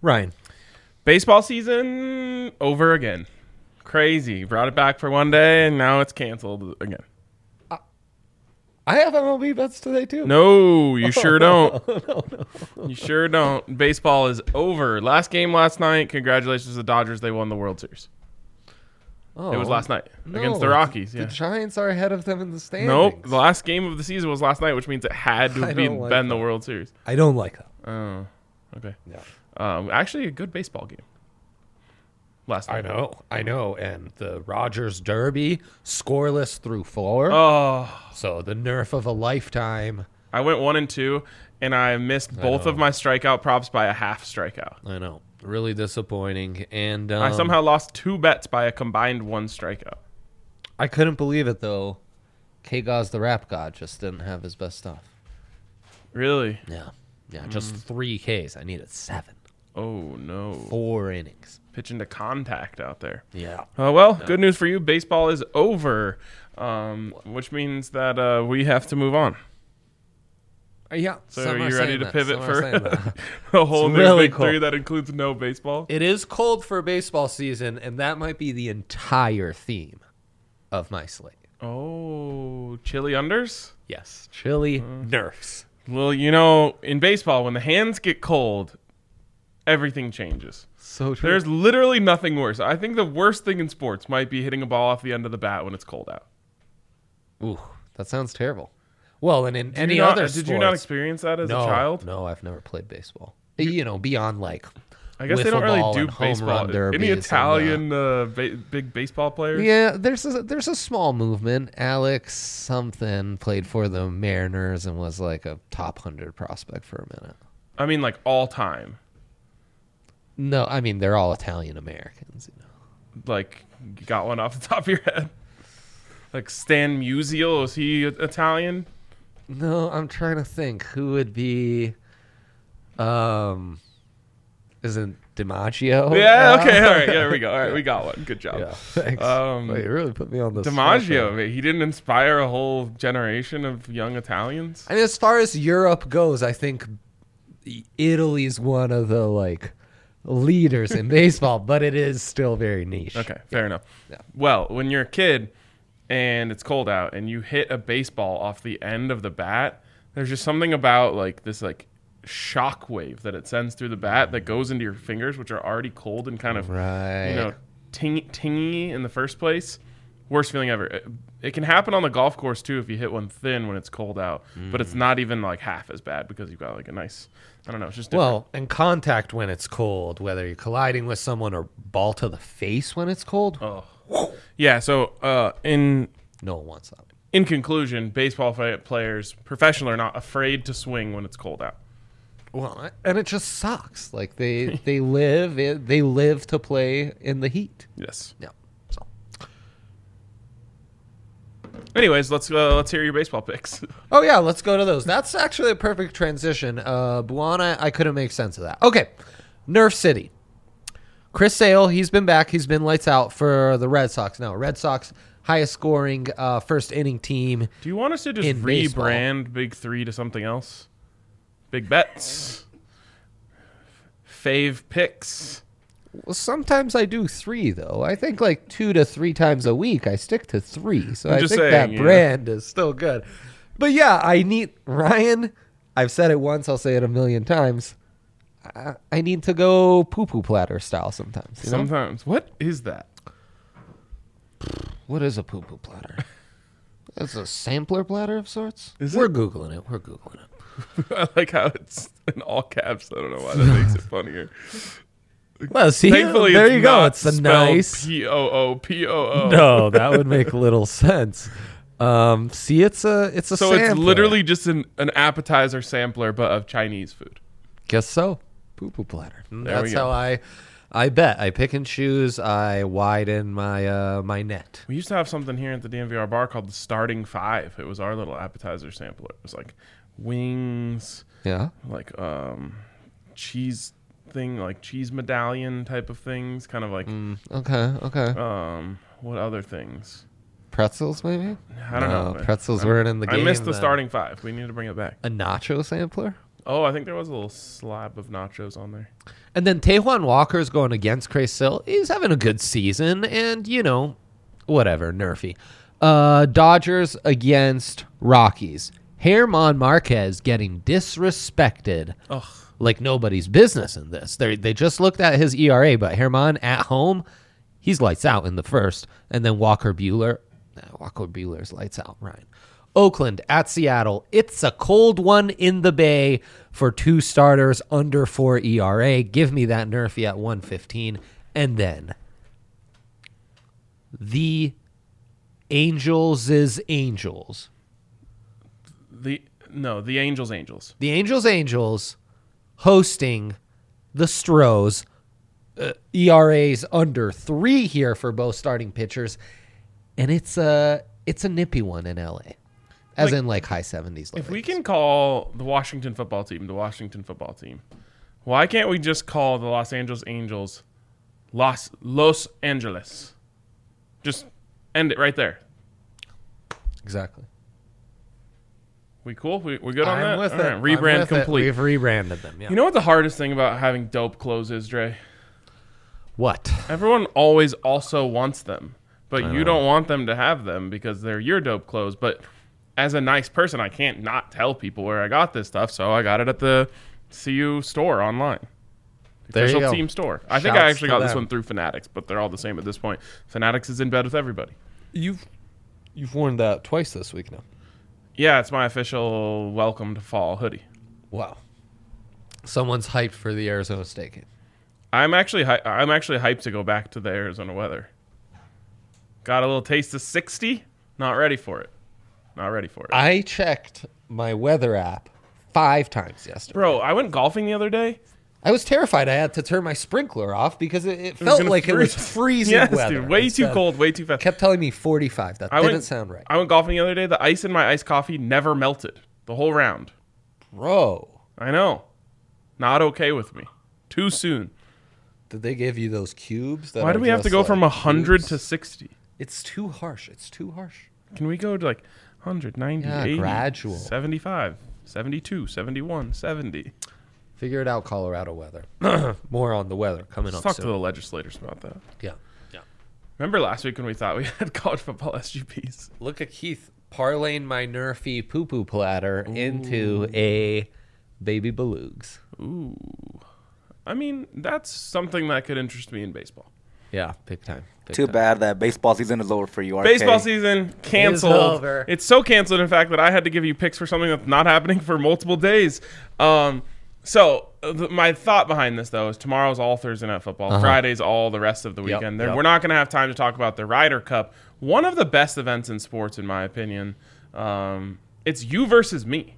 Ryan. Baseball season over again. Crazy. Brought it back for one day, and now it's canceled again. I have MLB bets today, too. No, you sure don't. No. You sure don't. Baseball is over. Last game last night. Congratulations to the Dodgers. They won the World Series. Oh, It was last night no, against the Rockies. The Yeah. Giants are ahead of them in the standings. Nope. The last game of the season was last night, which means it had to I have don't like been the that. World Series. I don't like that. Oh, okay. Yeah. Actually, a good baseball game last night. I know. And the Rogers Derby, scoreless through 4. Oh, So the nerf of a lifetime. I went 1 and 2, and I missed both of my strikeout props by a half strikeout. I know. Really disappointing. And I somehow lost 2 bets by a combined 1 strikeout. I couldn't believe it, though. K-Gaz the rap god just didn't have his best stuff. Really? Yeah. Just 3 Ks. I needed 7. Oh, no. 4 innings. Pitching to contact out there. Yeah. Good news for you. Baseball is over, which means that we have to move on. Yeah. So are you ready to pivot for that. a whole It's new really Big cool. 3 that includes no baseball? It is cold for baseball season, and that might be the entire theme of my slate. Oh, chili unders? Yes. Chili nerfs. Well, you know, in baseball, when the hands get cold, everything changes. So true. There's literally nothing worse. I think the worst thing in sports might be hitting a ball off the end of the bat when it's cold out. Ooh, that sounds terrible. Well, and in Did any you not- other Did you not sports- experience that as no, a child? No, I've never played baseball. Beyond like I guess they don't wiffle really ball do and home baseball. run derbies Any and, Italian big baseball players? Yeah, there's a small movement. Alex something played for the Mariners and was like a top 100 prospect for a minute. I mean, like all time. No, I mean they're all Italian Americans. Like, you got one off the top of your head? Like Stan Musial, is he Italian? No, I'm trying to think who would be. Isn't DiMaggio? Yeah, okay, all right, there we go. All right, we got one. Good job. Yeah, thanks. Wait, you really put me on the DiMaggio, he didn't inspire a whole generation of young Italians. I mean, as far as Europe goes, I think Italy's one of the like leaders in baseball, but it is still very niche. Okay, fair enough. Yeah. Well, when you're a kid and it's cold out and you hit a baseball off the end of the bat, there's just something about like this like shock wave that it sends through the bat that goes into your fingers, which are already cold and kind of Right. tingy in the first place. Worst feeling ever. It can happen on the golf course too if you hit one thin when it's cold out, but it's not even like half as bad because you've got like a nice, I don't know, it's just different. Well, and contact when it's cold, whether you're colliding with someone or ball to the face when it's cold, Yeah, so in no one wants that. in conclusion, baseball players, professional or not, afraid to swing when it's cold out. Well, and it just sucks. Like they live to play in the heat. Yes. Yeah. So Anyways, let's hear your baseball picks. oh yeah, let's go to those. That's actually a perfect transition. Buana, I couldn't make sense of that. Okay, Nerf City. Chris Sale, he's been back. He's been lights out for the Red Sox. Now, Red Sox highest scoring first inning team. Do you want us to just In baseball. rebrand Big Three to something else? Big bets, fave picks. Well, sometimes I do 3 though. I think like 2 to 3 times a week. I stick to 3, so I'm I just think saying, that yeah. brand is still good. But yeah, I need Ryan. I've said it once. I'll say it a million times. I need to go poo-poo platter style sometimes. You know? Sometimes. What is that? What is a poo-poo platter? It's a sampler platter of sorts. Is We're it? Googling it. We're Googling it. I like how it's in all caps. I don't know why that makes it funnier. Well, see, Thankfully, there it's you go. not It's a spelled nice. P-O-O. No, that would make little sense. See, it's a So sampler. it's literally just an appetizer sampler, but of Chinese food. Guess so. Poo-poo platter. There we That's go. how I bet. I pick and choose. I widen my my net. We used to have something here at the DMVR bar called the Starting Five. It was our little appetizer sampler. It was like wings, Yeah. like cheese thing, like cheese medallion type of things. Kind of like Okay. what other things? Pretzels, maybe? I don't know. Pretzels weren't in the game. I missed the then. Starting Five. We need to bring it back. A nacho sampler? Oh, I think there was a little slab of nachos on there. And then Tajuan Walker's going against Chris Sill. He's having a good season, and, whatever, nerfy. Dodgers against Rockies. German Marquez getting disrespected like nobody's business in this. They just looked at his ERA, but German at home, he's lights out in the first. And then Walker Buehler's lights out, Ryan. Oakland at Seattle. It's a cold one in the Bay for 2 starters under 4 ERA. Give me that nerfy at 115. And then the Angels' Angels. The Angels. The Angels hosting the Stros. ERAs under 3 here for both starting pitchers. And it's a nippy one in LA. As in high 70s. If we can call the Washington football team, why can't we just call the Los Angeles Angels Los Angeles? Just end it right there. Exactly. We cool? We good on I'm that? with All it. right, rebrand I'm with complete. We've rebranded them, yeah. You know what the hardest thing about having dope clothes is, Dre? What? Everyone always also wants them, but I you know. don't want them to have them because they're your dope clothes. But as a nice person, I can't not tell people where I got this stuff, so I got it at the CU store online. The There you official go. team store. I think I Shouts actually to got this them. one through Fanatics, but they're all the same at this point. Fanatics is in bed with everybody. You've worn that twice this week now. Yeah, it's my official welcome to fall hoodie. Wow. Someone's hyped for the Arizona State game. I'm actually hyped to go back to the Arizona weather. Got a little taste of 60. Not ready for it. I checked my weather app 5 times yesterday. Bro, I went golfing the other day. I was terrified I had to turn my sprinkler off because it was felt gonna like it was freeze. freezing Yes, weather. dude. Way too Instead, cold, way too fast. Kept telling me 45. That didn't sound right. I went golfing the other day. The ice in my iced coffee never melted the whole round. Bro, I know. Not okay with me. Too soon. did they give you those cubes? That Why do are we have to just go like from 100 cubes? to 60? It's too harsh. Can we go to 100, 90, Yeah, 80, gradual. 75, 72, 71, 70? Figure it out, Colorado weather. More on the weather coming Let's up talk soon. to the legislators about that. Yeah. Remember last week when we thought we had college football SGPs? Look at Keith parlaying my nerfy poo-poo platter into a baby belugs. Ooh. I mean, that's something that could interest me in baseball. Yeah, big time. Too bad that baseball season is over for you, RK. Baseball season canceled. over. It's so canceled, in fact, that I had to give you picks for something that's not happening for multiple days. My thought behind this, though, is tomorrow's all Thursday Night Football. Friday's all the rest of the weekend. yep. We're not going to have time to talk about the Ryder Cup, one of the best events in sports, in my opinion. It's you versus me.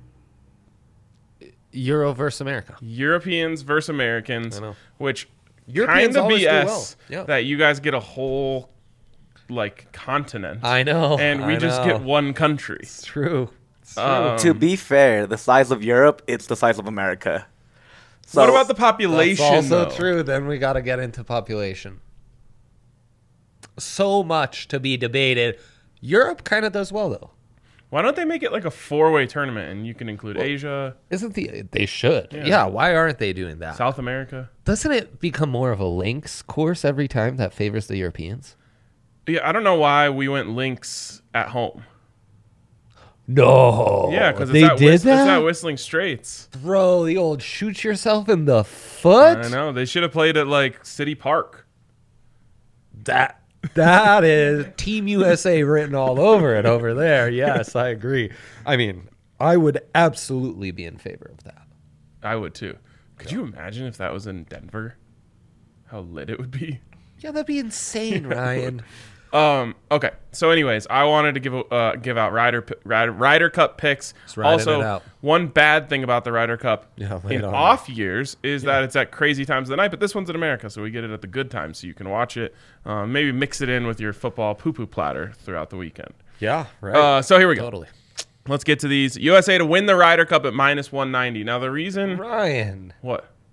Euro versus America. Europeans versus Americans, I know. which Europeans kind of always do BS well. Yeah. that you guys get a whole continent. I know. And we just get one country. It's true. To be fair, the size of Europe, it's the size of America. So, What about the population? That's also though? true. Then we got to get into population. So much to be debated. Europe kind of does well, though. Why don't they make it like a 4-way tournament and you can include Asia, They should. Yeah. Why aren't they doing that? South America? Doesn't it become more of a links course every time that favors the Europeans? Yeah, I don't know why we went links at home. No. Yeah, because they did It's at that? Whistling Straits. Bro, the old shoot yourself in the foot? I know. They should have played at City Park. That is Team USA written all over it over there. Yes, I agree. I mean, I would absolutely be in favor of that. I would too. Could you imagine if that was in Denver? How lit it would be. Yeah, that'd be insane, Ryan. Okay. So, anyways, I wanted to give out Ryder Cup picks. riding it Also, out. one bad thing about the Ryder Cup Yeah, lay in it on off years is that it's at crazy times of the night. But this one's in America, so we get it at the good times, so you can watch it. Maybe mix it in with your football poo-poo platter throughout the weekend. Yeah, right. So here we go. Totally. Let's get to these. USA to win the Ryder Cup at -190. Now the reason Ryan, what?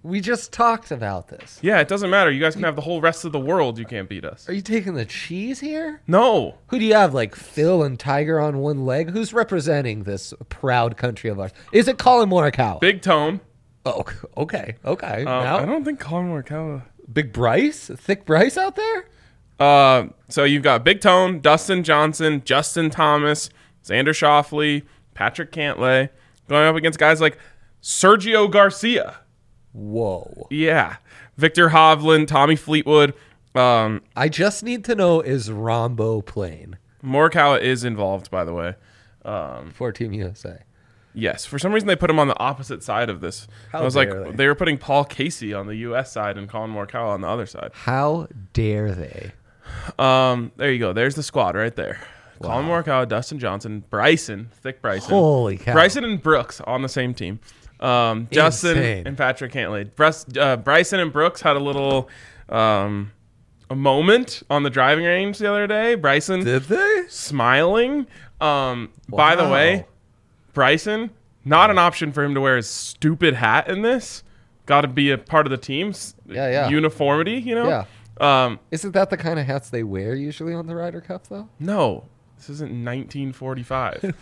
We just talked about this. Yeah, it doesn't matter. You guys can have the whole rest of the world. You can't beat us. Are you taking the cheese here? No. Who do you have, like Phil and Tiger on one leg? Who's representing this proud country of ours? Is it Colin Morikawa? Big Tone. Oh, okay. I Now, don't think Colin Morikawa. Big Bryce? Thick Bryce out there? So you've got Big Tone, Dustin Johnson, Justin Thomas, Xander Schauffele, Patrick Cantlay, going up against guys like Sergio Garcia. Whoa. Yeah. Victor Hovland, Tommy Fleetwood. I just need to know, is Rombo playing Morikawa is involved, by the way. for Team USA? Yes. For some reason, they put him on the opposite side of this. How I was like, dare they? they were putting Paul Casey on the U.S. side and Colin Morikawa on the other side. How dare they? There you go. There's the squad right there. Colin Morikawa, Dustin Johnson, Bryson, thick Bryson. Holy cow. Bryson and Brooks on the same team. Justin Insane. and Patrick Cantlay. Bryson and Brooks had a little a moment on the driving range the other day. Bryson Did they? smiling. By the way, Bryson, not an option for him to wear his stupid hat in this. Got to be a part of the team's Yeah. uniformity, you know? Yeah. Isn't that the kind of hats they wear usually on the Ryder Cup, though? No, this isn't 1945.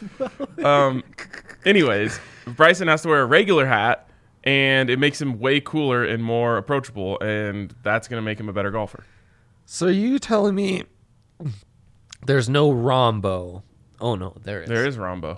Anyways, Bryson has to wear a regular hat, and it makes him way cooler and more approachable, and that's going to make him a better golfer. So are you telling me there's no Rombo? Oh, no, there is. There is Rombo.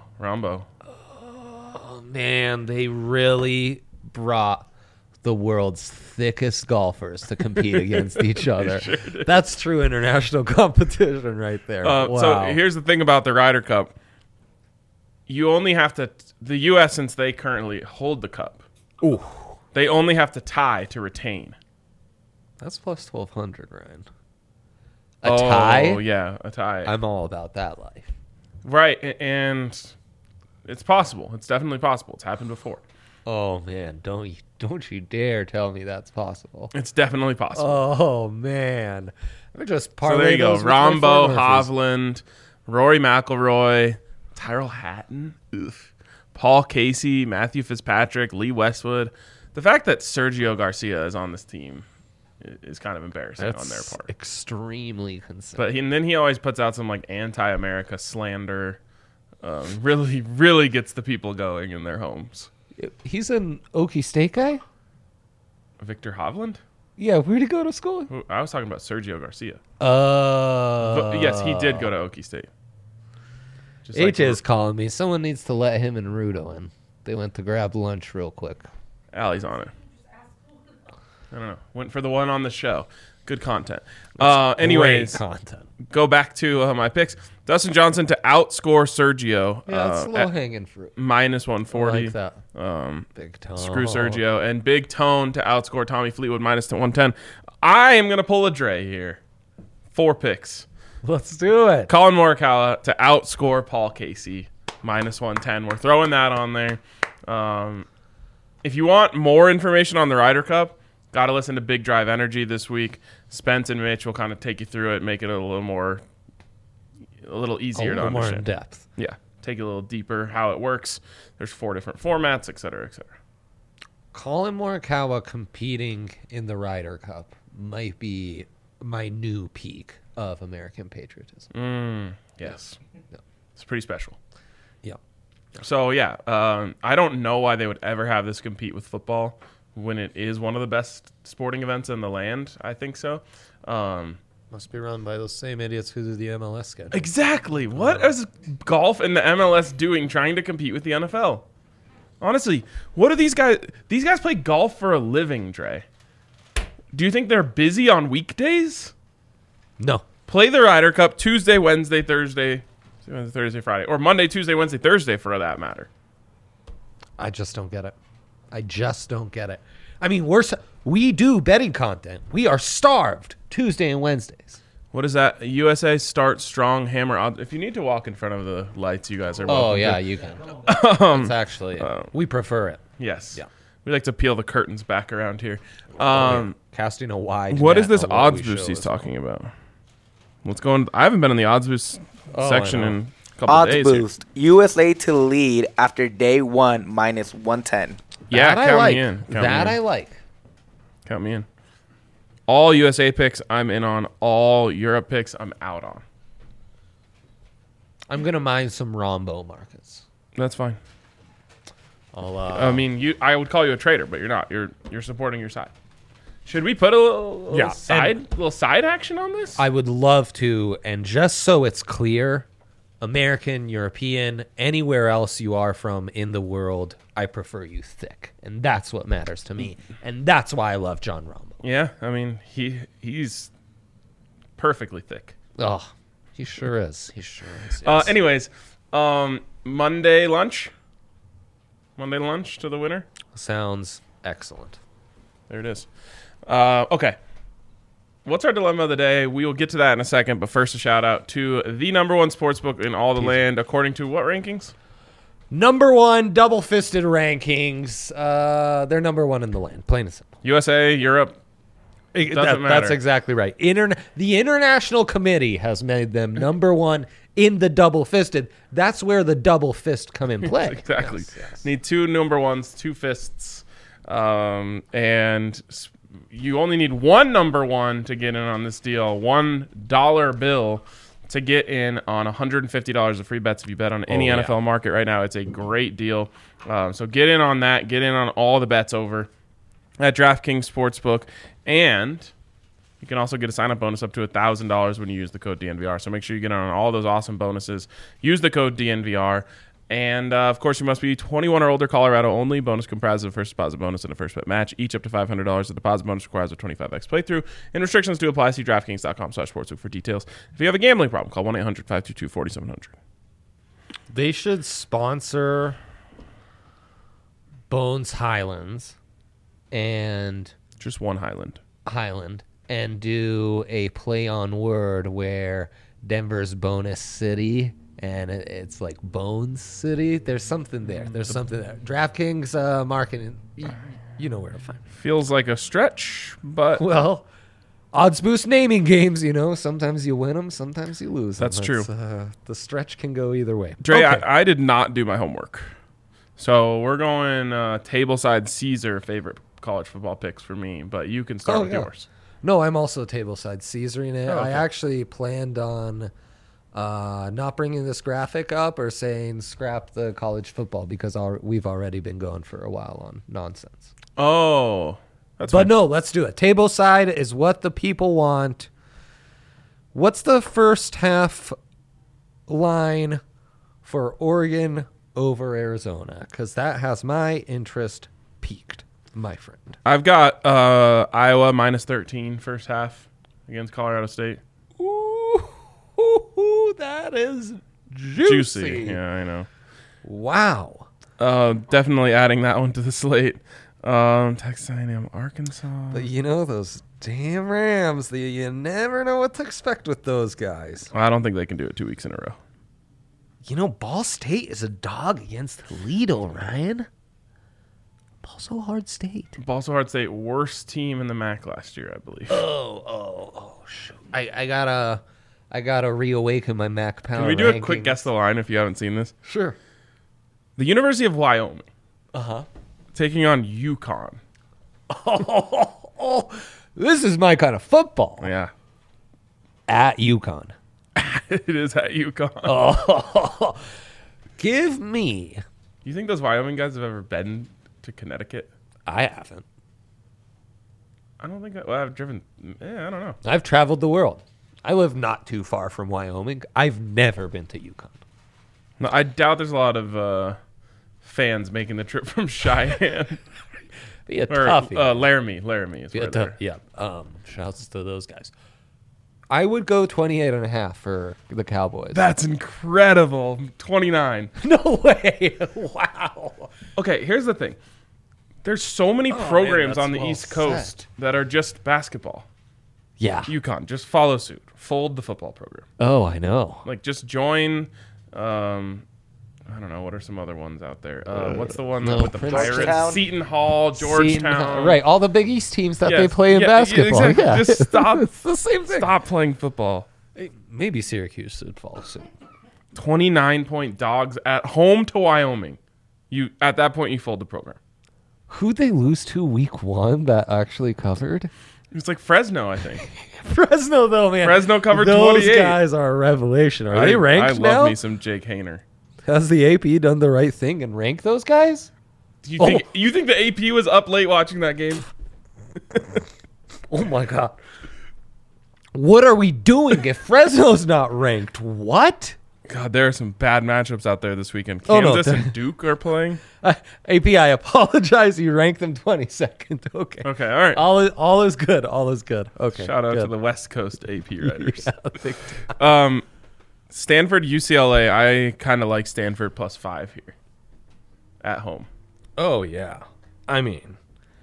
Oh, man, they really brought the world's thickest golfers to compete against each other. That's true international competition right there. Wow. So here's the thing about the Ryder Cup. You only have to, the U.S., since they currently hold the cup, Ooh, they only have to tie to retain. that's plus 1,200, Ryan. A tie? Oh, yeah, a tie. I'm all about that life. Right, and it's possible. It's definitely possible. It's happened before. Oh, man, don't you dare tell me that's possible. It's definitely possible. Oh, man. Let me just So parlay there you go. those with my Rombo, Murphys. Hovland, Rory McIlroy, Tyrrell Hatton, Paul Casey, Matthew Fitzpatrick, Lee Westwood. The fact that Sergio Garcia is on this team is kind of embarrassing That's on their part. extremely concerning. But and then he always puts out some like anti-America slander. Really gets the people going in their homes. He's an Okie State guy? Victor Hovland? Yeah, where'd he go to school? I was talking about Sergio Garcia. But Yes, he did go to Okie State. Just H is calling me. Someone needs to let him and Rudo in. They went to grab lunch real quick. Allie's on it. I don't know. Went for the one on the show. Good content. Anyways, Great content. go back to my picks. Dustin Johnson to outscore Sergio. Yeah, it's low at hanging fruit. minus I 140. like that. Big Tone. Screw Sergio. And Big Tone to outscore Tommy Fleetwood minus 110. I am going to pull a Dre here. 4 picks. Let's do it. Colin Morikawa to outscore Paul Casey minus 110. We're throwing that on there. If you want more information on the Ryder Cup, got to listen to Big Drive Energy this week. Spence and Mitch will kind of take you through it, make it a little easier A to little more in understand. depth. Yeah, take it a little deeper how it works. There's 4 different formats, et cetera, et cetera. Colin Morikawa competing in the Ryder Cup might be my new peak of American patriotism. Yes, Yeah. it's pretty special. Yeah. So yeah, I don't know why they would ever have this compete with football when it is one of the best sporting events in the land. I think so. Must be run by those same idiots who do the MLS schedule. Exactly. What is golf and the MLS doing trying to compete with the NFL? Honestly, what are these guys? These guys play golf for a living, Dre. Do you think they're busy on weekdays? No. Play the Ryder Cup Tuesday, Wednesday, Thursday, Friday, or Monday, Tuesday, Wednesday, Thursday for that matter. I just don't get it. I mean, we do betting content. We are starved Tuesday and Wednesdays. What is that? USA Start Strong Hammer Odds. If you need to walk in front of the lights, you guys are welcome. Oh, yeah, to. you can. It's actually, we prefer it. Yes. Yeah. We like to peel the curtains back around here. Casting a wide What net is this on what odds we boost show he's as well. talking about? What's going? I haven't been in the odds boost Oh, section I know. in a couple Odds of days. boost. USA to lead after day 1 minus 110. Yeah, That I count like. me in. Count me That in. I like. Count me in. All USA picks, I'm in on. All Europe picks, I'm out on. I'm gonna mine some Rombo markets. That's fine. I'll, I would call you a traitor, but you're not. You're supporting your side. Should we put a little side action on this? I would love to, and just so it's clear, American, European, anywhere else you are from in the world, I prefer you thick, and that's what matters to me, and that's why I love John Rombo. Yeah, I mean he's perfectly thick. Oh, he sure is. He sure is. Yes. Anyways, Monday lunch to the winner. Sounds excellent. There it is. Okay. What's our dilemma of the day? We will get to that in a second, but first a shout out to the number one sportsbook in all the land, according to what rankings? Number one, double-fisted rankings. They're number one in the land, plain and simple. USA, Europe. Doesn't matter. That's exactly right. The International Committee has made them number one in the double-fisted. That's where the double fist come in play. Exactly. Yes. Need two number ones, two fists, and you only need one number one to get in on this deal. $1 bill to get in on $150 of free bets if you bet on any NFL market right now. It's a great deal. So get in on that. Get in on all the bets over at DraftKings Sportsbook. And you can also get a sign-up bonus up to $1,000 when you use the code DNVR. So make sure you get in on all those awesome bonuses. Use the code DNVR. And, of course, you must be 21 or older, Colorado only. Bonus comprises of a first deposit bonus and a first bet match, each up to $500. The deposit bonus requires a 25x playthrough, and restrictions do apply. See DraftKings.com/sportsbook for details. If you have a gambling problem, call 1-800-522-4700. They should sponsor Bones Highlands and Just one Highland and do a play on word where Denver's Bonus City and it's like Bones City. There's something there. DraftKings marketing, you know where to find it. Feels like a stretch, but Well, odds boost naming games, sometimes you win them, sometimes you lose them. That's true. The stretch can go either way. Dre, Okay. I did not do my homework. So we're going tableside Caesar favorite college football picks for me, but you can start with yours. No, I'm also tableside Caesaring it. Oh, okay. I actually planned on not bringing this graphic up or saying scrap the college football because we've already been going for a while on nonsense. Oh, that's But fine. no, let's do it. Tableside is what the people want. What's the first half line for Oregon over Arizona? Because that has my interest peaked, my friend. I've got Iowa minus 13 first half against Colorado State. Ooh, that is juicy. Yeah, I know. Wow. Definitely adding that one to the slate. Texas A&M, Arkansas. But those damn Rams, you never know what to expect with those guys. I don't think they can do it 2 weeks in a row. Ball State is a dog against Toledo, Ryan. Also hard state. Also hard State, worst team in the MAC last year, I believe. Oh, shoot. I gotta reawaken my Mac power. Can we do a rankings. quick guess the line if you haven't seen this? Sure. The University of Wyoming Uh-huh. taking on UConn. Oh, this is my kind of football. Yeah. At UConn. It is at UConn. Oh, give me. You think those Wyoming guys have ever been to Connecticut? I haven't. I don't think I've driven. Yeah, I don't know. I've traveled the world. I live not too far from Wyoming. I've never been to UConn. No, I doubt there's a lot of fans making the trip from Cheyenne. Be a or toughie. Laramie is Be where a they're. yeah. Shouts to those guys. I would go 28.5 for the Cowboys. That's incredible. 29. No way. Wow. Okay, here's the thing. There's so many man, programs that's on the well East Coast said. that are just basketball. Yeah. UConn, just follow suit. Fold the football program. Oh, I know. Like, just join. I don't know. What are some other ones out there? What's the one no, with the Princeton. Pirates? Seton Hall, Georgetown. Right. All the Big East teams that they Yes. play in Yeah, basketball. exactly. Yeah. Just stop. It's the same thing. Stop playing football. Maybe Syracuse should follow suit. 29-point dogs at home to Wyoming. At that point, you fold the program. Who'd they lose to week 1 that actually covered? It was like Fresno, I think. Fresno, though, man. Fresno covered Those 28. guys are a revelation. Are they ranked I now? love me some Jake Hayner. Has the AP done the right thing and ranked those guys? Do you think the AP was up late watching that game? Oh, my God. What are we doing if Fresno's not ranked? What? God, there are some bad matchups out there this weekend. Oh, no. Kansas and Duke are playing. AP, I apologize. You ranked them 22nd. Okay. Okay, all right. All is good. All is good. Okay. Shout out good. to the West Coast AP writers. Yeah, big time. Stanford, UCLA. I kind of like Stanford +5 here at home. Oh, yeah. I mean,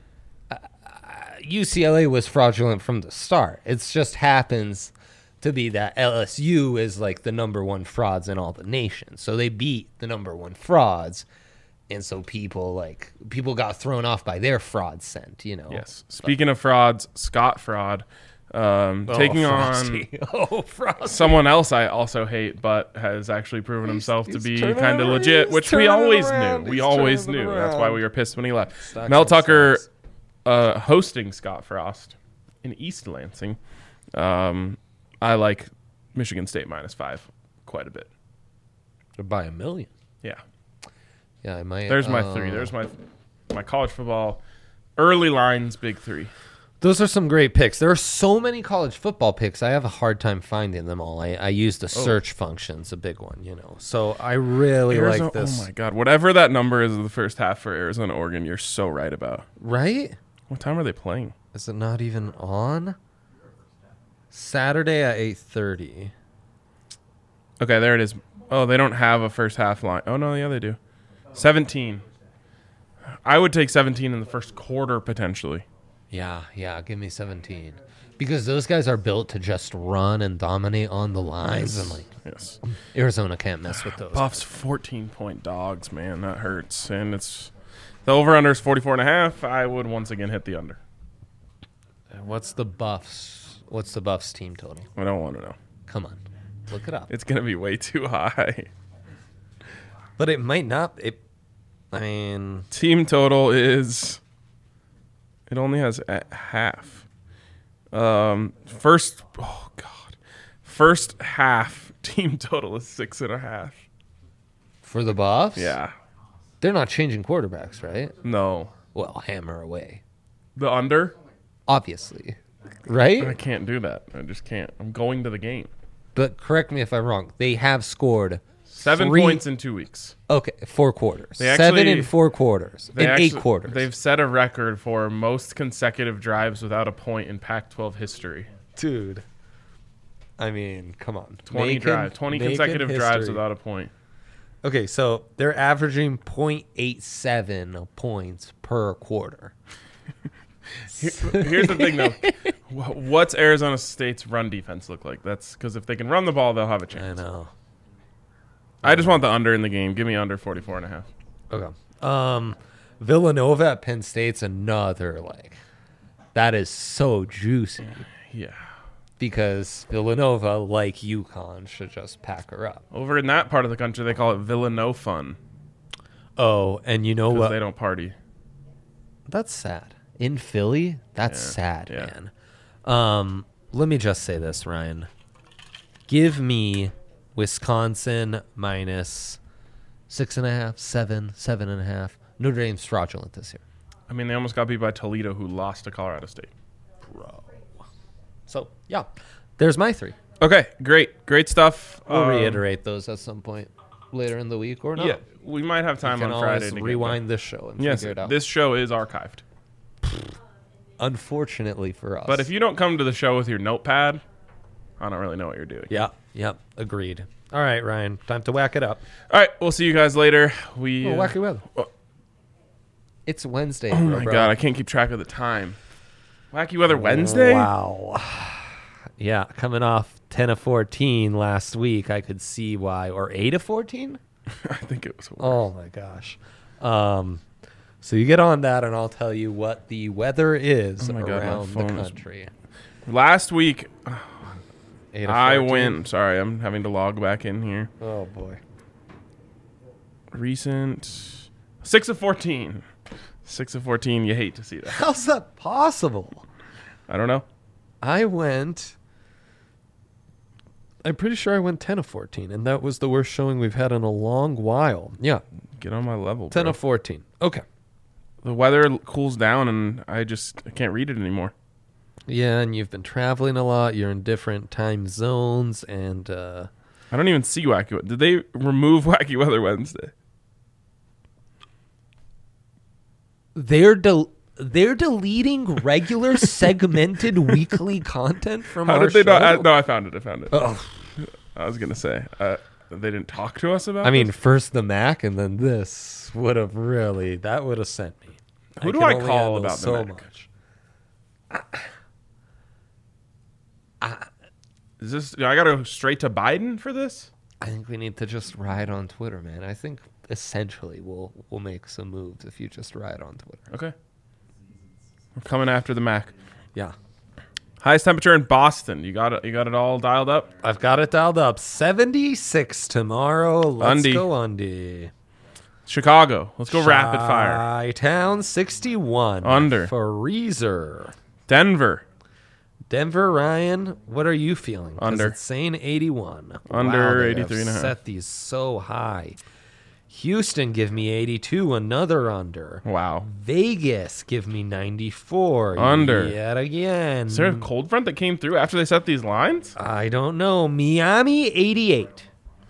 UCLA was fraudulent from the start. It just happens to be that LSU is like the number 1 frauds in all the nation. So they beat the number 1 frauds. And so people got thrown off by their fraud scent, you know. Yes. Speaking of frauds, Scott Fraud taking on Frosty. someone else I also hate, but has actually proven himself to he's be turning kind of it legit, around. which He's we turning it always around. knew. We He's always turning it knew. That's why around. we were pissed when he left. Stocks Mel and Tucker stocks. hosting Scott Frost in East Lansing. I like Michigan State -5 quite a bit. By a million. Yeah. Yeah, I might. There's my 3. There's my college football early lines big 3. Those are some great picks. There are so many college football picks. I have a hard time finding them all. I use the search function's a big one, you know. So I really Arizona, like this. Oh my God! Whatever that number is in the first half for Arizona, Oregon, you're so right about. Right? What time are they playing? Is it not even on? Saturday at 8:30. Okay, there it is. Oh, they don't have a first half line. Oh no, yeah, they do. 17. I would take 17 in the first quarter potentially. Yeah, give me 17. Because those guys are built to just run and dominate on the lines, and like Yes. Arizona can't mess with those. Buffs 14-point dogs, man. That hurts. And it's the over-under is 44.5. I would once again hit the under. What's the Buffs team total? I don't want to know. Come on. Look it up. It's going to be way too high. But it might not. I mean, Team total is... It only has at half. First half team total is 6.5. for the Buffs? Yeah. They're not changing quarterbacks, right? No. Well, hammer away. The under? Obviously. I Right? can't do that. I just can't. I'm going to the game. But correct me if I'm wrong. They have scored 7 3 points in 2 weeks. Okay, 4 quarters. They 7 actually- in 4 quarters. They In 8 actually- quarters. They've set a record for most consecutive drives without a point in Pac-12 history. Dude. I mean, come on. 20 consecutive drives without a point. Okay, so they're averaging 0.87 points per quarter. Here's the thing, though. What's Arizona State's run defense look like? That's because if they can run the ball, they'll have a I chance. know. I just want the under in the game. Give me under 44.5. Okay. Villanova at Penn State's another that is so juicy Yeah. because Villanova, like UConn, should just pack her up. Over in that part of the country, they call it Villanova fun Oh, and you know because what? they don't party. That's sad. In Philly, that's Yeah, sad, yeah. man. Let me just say this, Ryan. Give me Wisconsin minus 6.5, 7.5. Notre Dame's fraudulent this year. I mean, they almost got beat by Toledo, who lost to Colorado State. Bro. So, yeah. There's my 3. Okay, great stuff. We'll reiterate those at some point later in the week or not. Yeah, we might have time You can on Friday always to get rewind this show and there. Yes, figure it out. this show is archived. Unfortunately for us. But if you don't come to the show with your notepad, I don't really know what you're doing. Yep. Agreed. All right, Ryan. Time to whack it up. All right, we'll see you guys later. We. Wacky weather. Oh. It's Wednesday. Oh my God, I can't keep track of the time. Wacky Weather Wednesday? Wow. Yeah, coming off 10 of 14 last week, I could see why. Or 8 of 14? I think it was. Oh my gosh. So you get on that, and I'll tell you what the weather is Oh my God, my around the phone is- country. Last week, 8 of I 14? went. Sorry, I'm having to log back in here. Oh boy. Recent 6 of 14. 6 of 14. You hate to see that. How's that possible? I don't know. I'm pretty sure I went 10 of 14, and that was the worst showing we've had in a long while. Yeah, Get on my level, 10 bro. of 14. Okay. The weather cools down, and I can't read it anymore. Yeah, and you've been traveling a lot. You're in different time zones, and I don't even see Wacky. Did they remove Wacky Weather Wednesday? they're deleting regular segmented weekly content from How our did they show. not? No, I found it. Oh. I was gonna say they didn't talk to us about. I mean, this? first the Mac, and then this would have sent me. Who do can I only call handle about the so Mac? much? Is this? I gotta go straight to Biden for this. I think we need to just ride on Twitter, man. I think essentially we'll make some moves if you just ride on Twitter. Okay. We're coming after the Mac. Yeah. Highest temperature in Boston. You got it. You got it all dialed up. I've got it dialed up. 76 tomorrow. Let's Undy. go Undy. Chicago. Let's go rapid fire. Chi-Town 61. Under. Freezer. Denver. Denver, Ryan, what are you feeling? 'Cause Under. It's saying 81. Under Wow, they 83.5. have set these so high. Houston, give me 82. Another under. Wow. Vegas, give me 94. Under. Yet again. Is there a cold front that came through after they set these lines? I don't know. Miami, 88.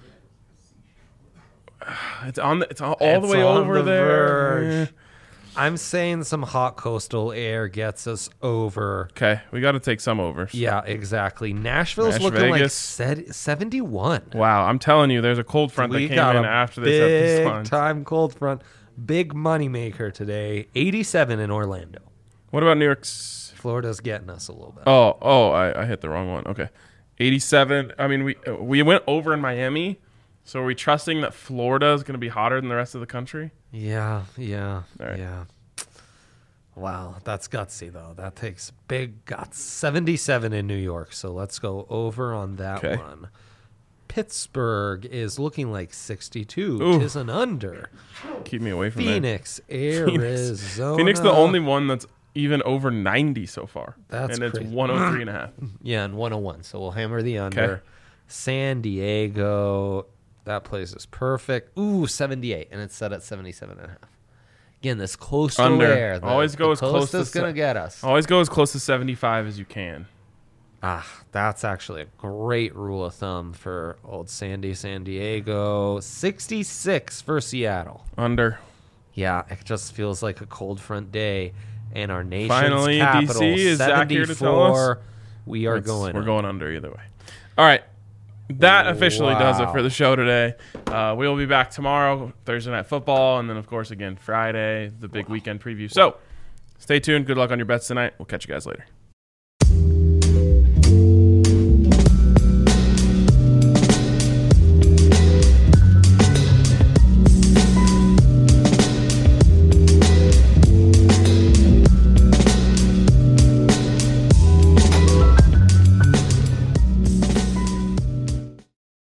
It's on. It's all It's the way on over the there. verge. I'm saying some hot coastal air gets us over. Okay, we got to take some over. Yeah, exactly. Nashville's Nash, looking Vegas. like 71. Wow, I'm telling you, there's a cold front We that came got in a after they set these big lines. time cold front. Big money maker today. 87 in Orlando. What about New York's? Florida's getting us a little bit. I hit the wrong one. Okay, 87. I mean, we went over in Miami, so are we trusting that Florida is going to be hotter than the rest of the country? Yeah. All right. Yeah. Wow, that's gutsy though. That takes big guts. 77 in New York, so let's go over on that Okay. one. Pittsburgh is looking like 62. Ooh. Tis an under. Keep me away from that. Phoenix, Arizona. Phoenix, the only one that's even over 90 so far. That's and it's crazy. 103.5. Yeah, and 101. So we'll hammer the under. Okay. San Diego, that place is perfect. Ooh, 78, and it's set at 77.5. Again, this coastal Under. air. Always go as close to is going to get us. Always go as close to 75 as you can. That's actually a great rule of thumb for old San Diego. 66 for Seattle. Under. Yeah, it just feels like a cold front day. And our nation's Finally, capital, DC, is Zach here to tell us? 74. We are going. We're going under either way. All right. That officially does it Wow. for the show today. We will be back tomorrow, Thursday Night Football, and then, of course, again, Friday, the big weekend preview. So stay tuned. Good luck on your bets tonight. We'll catch you guys later.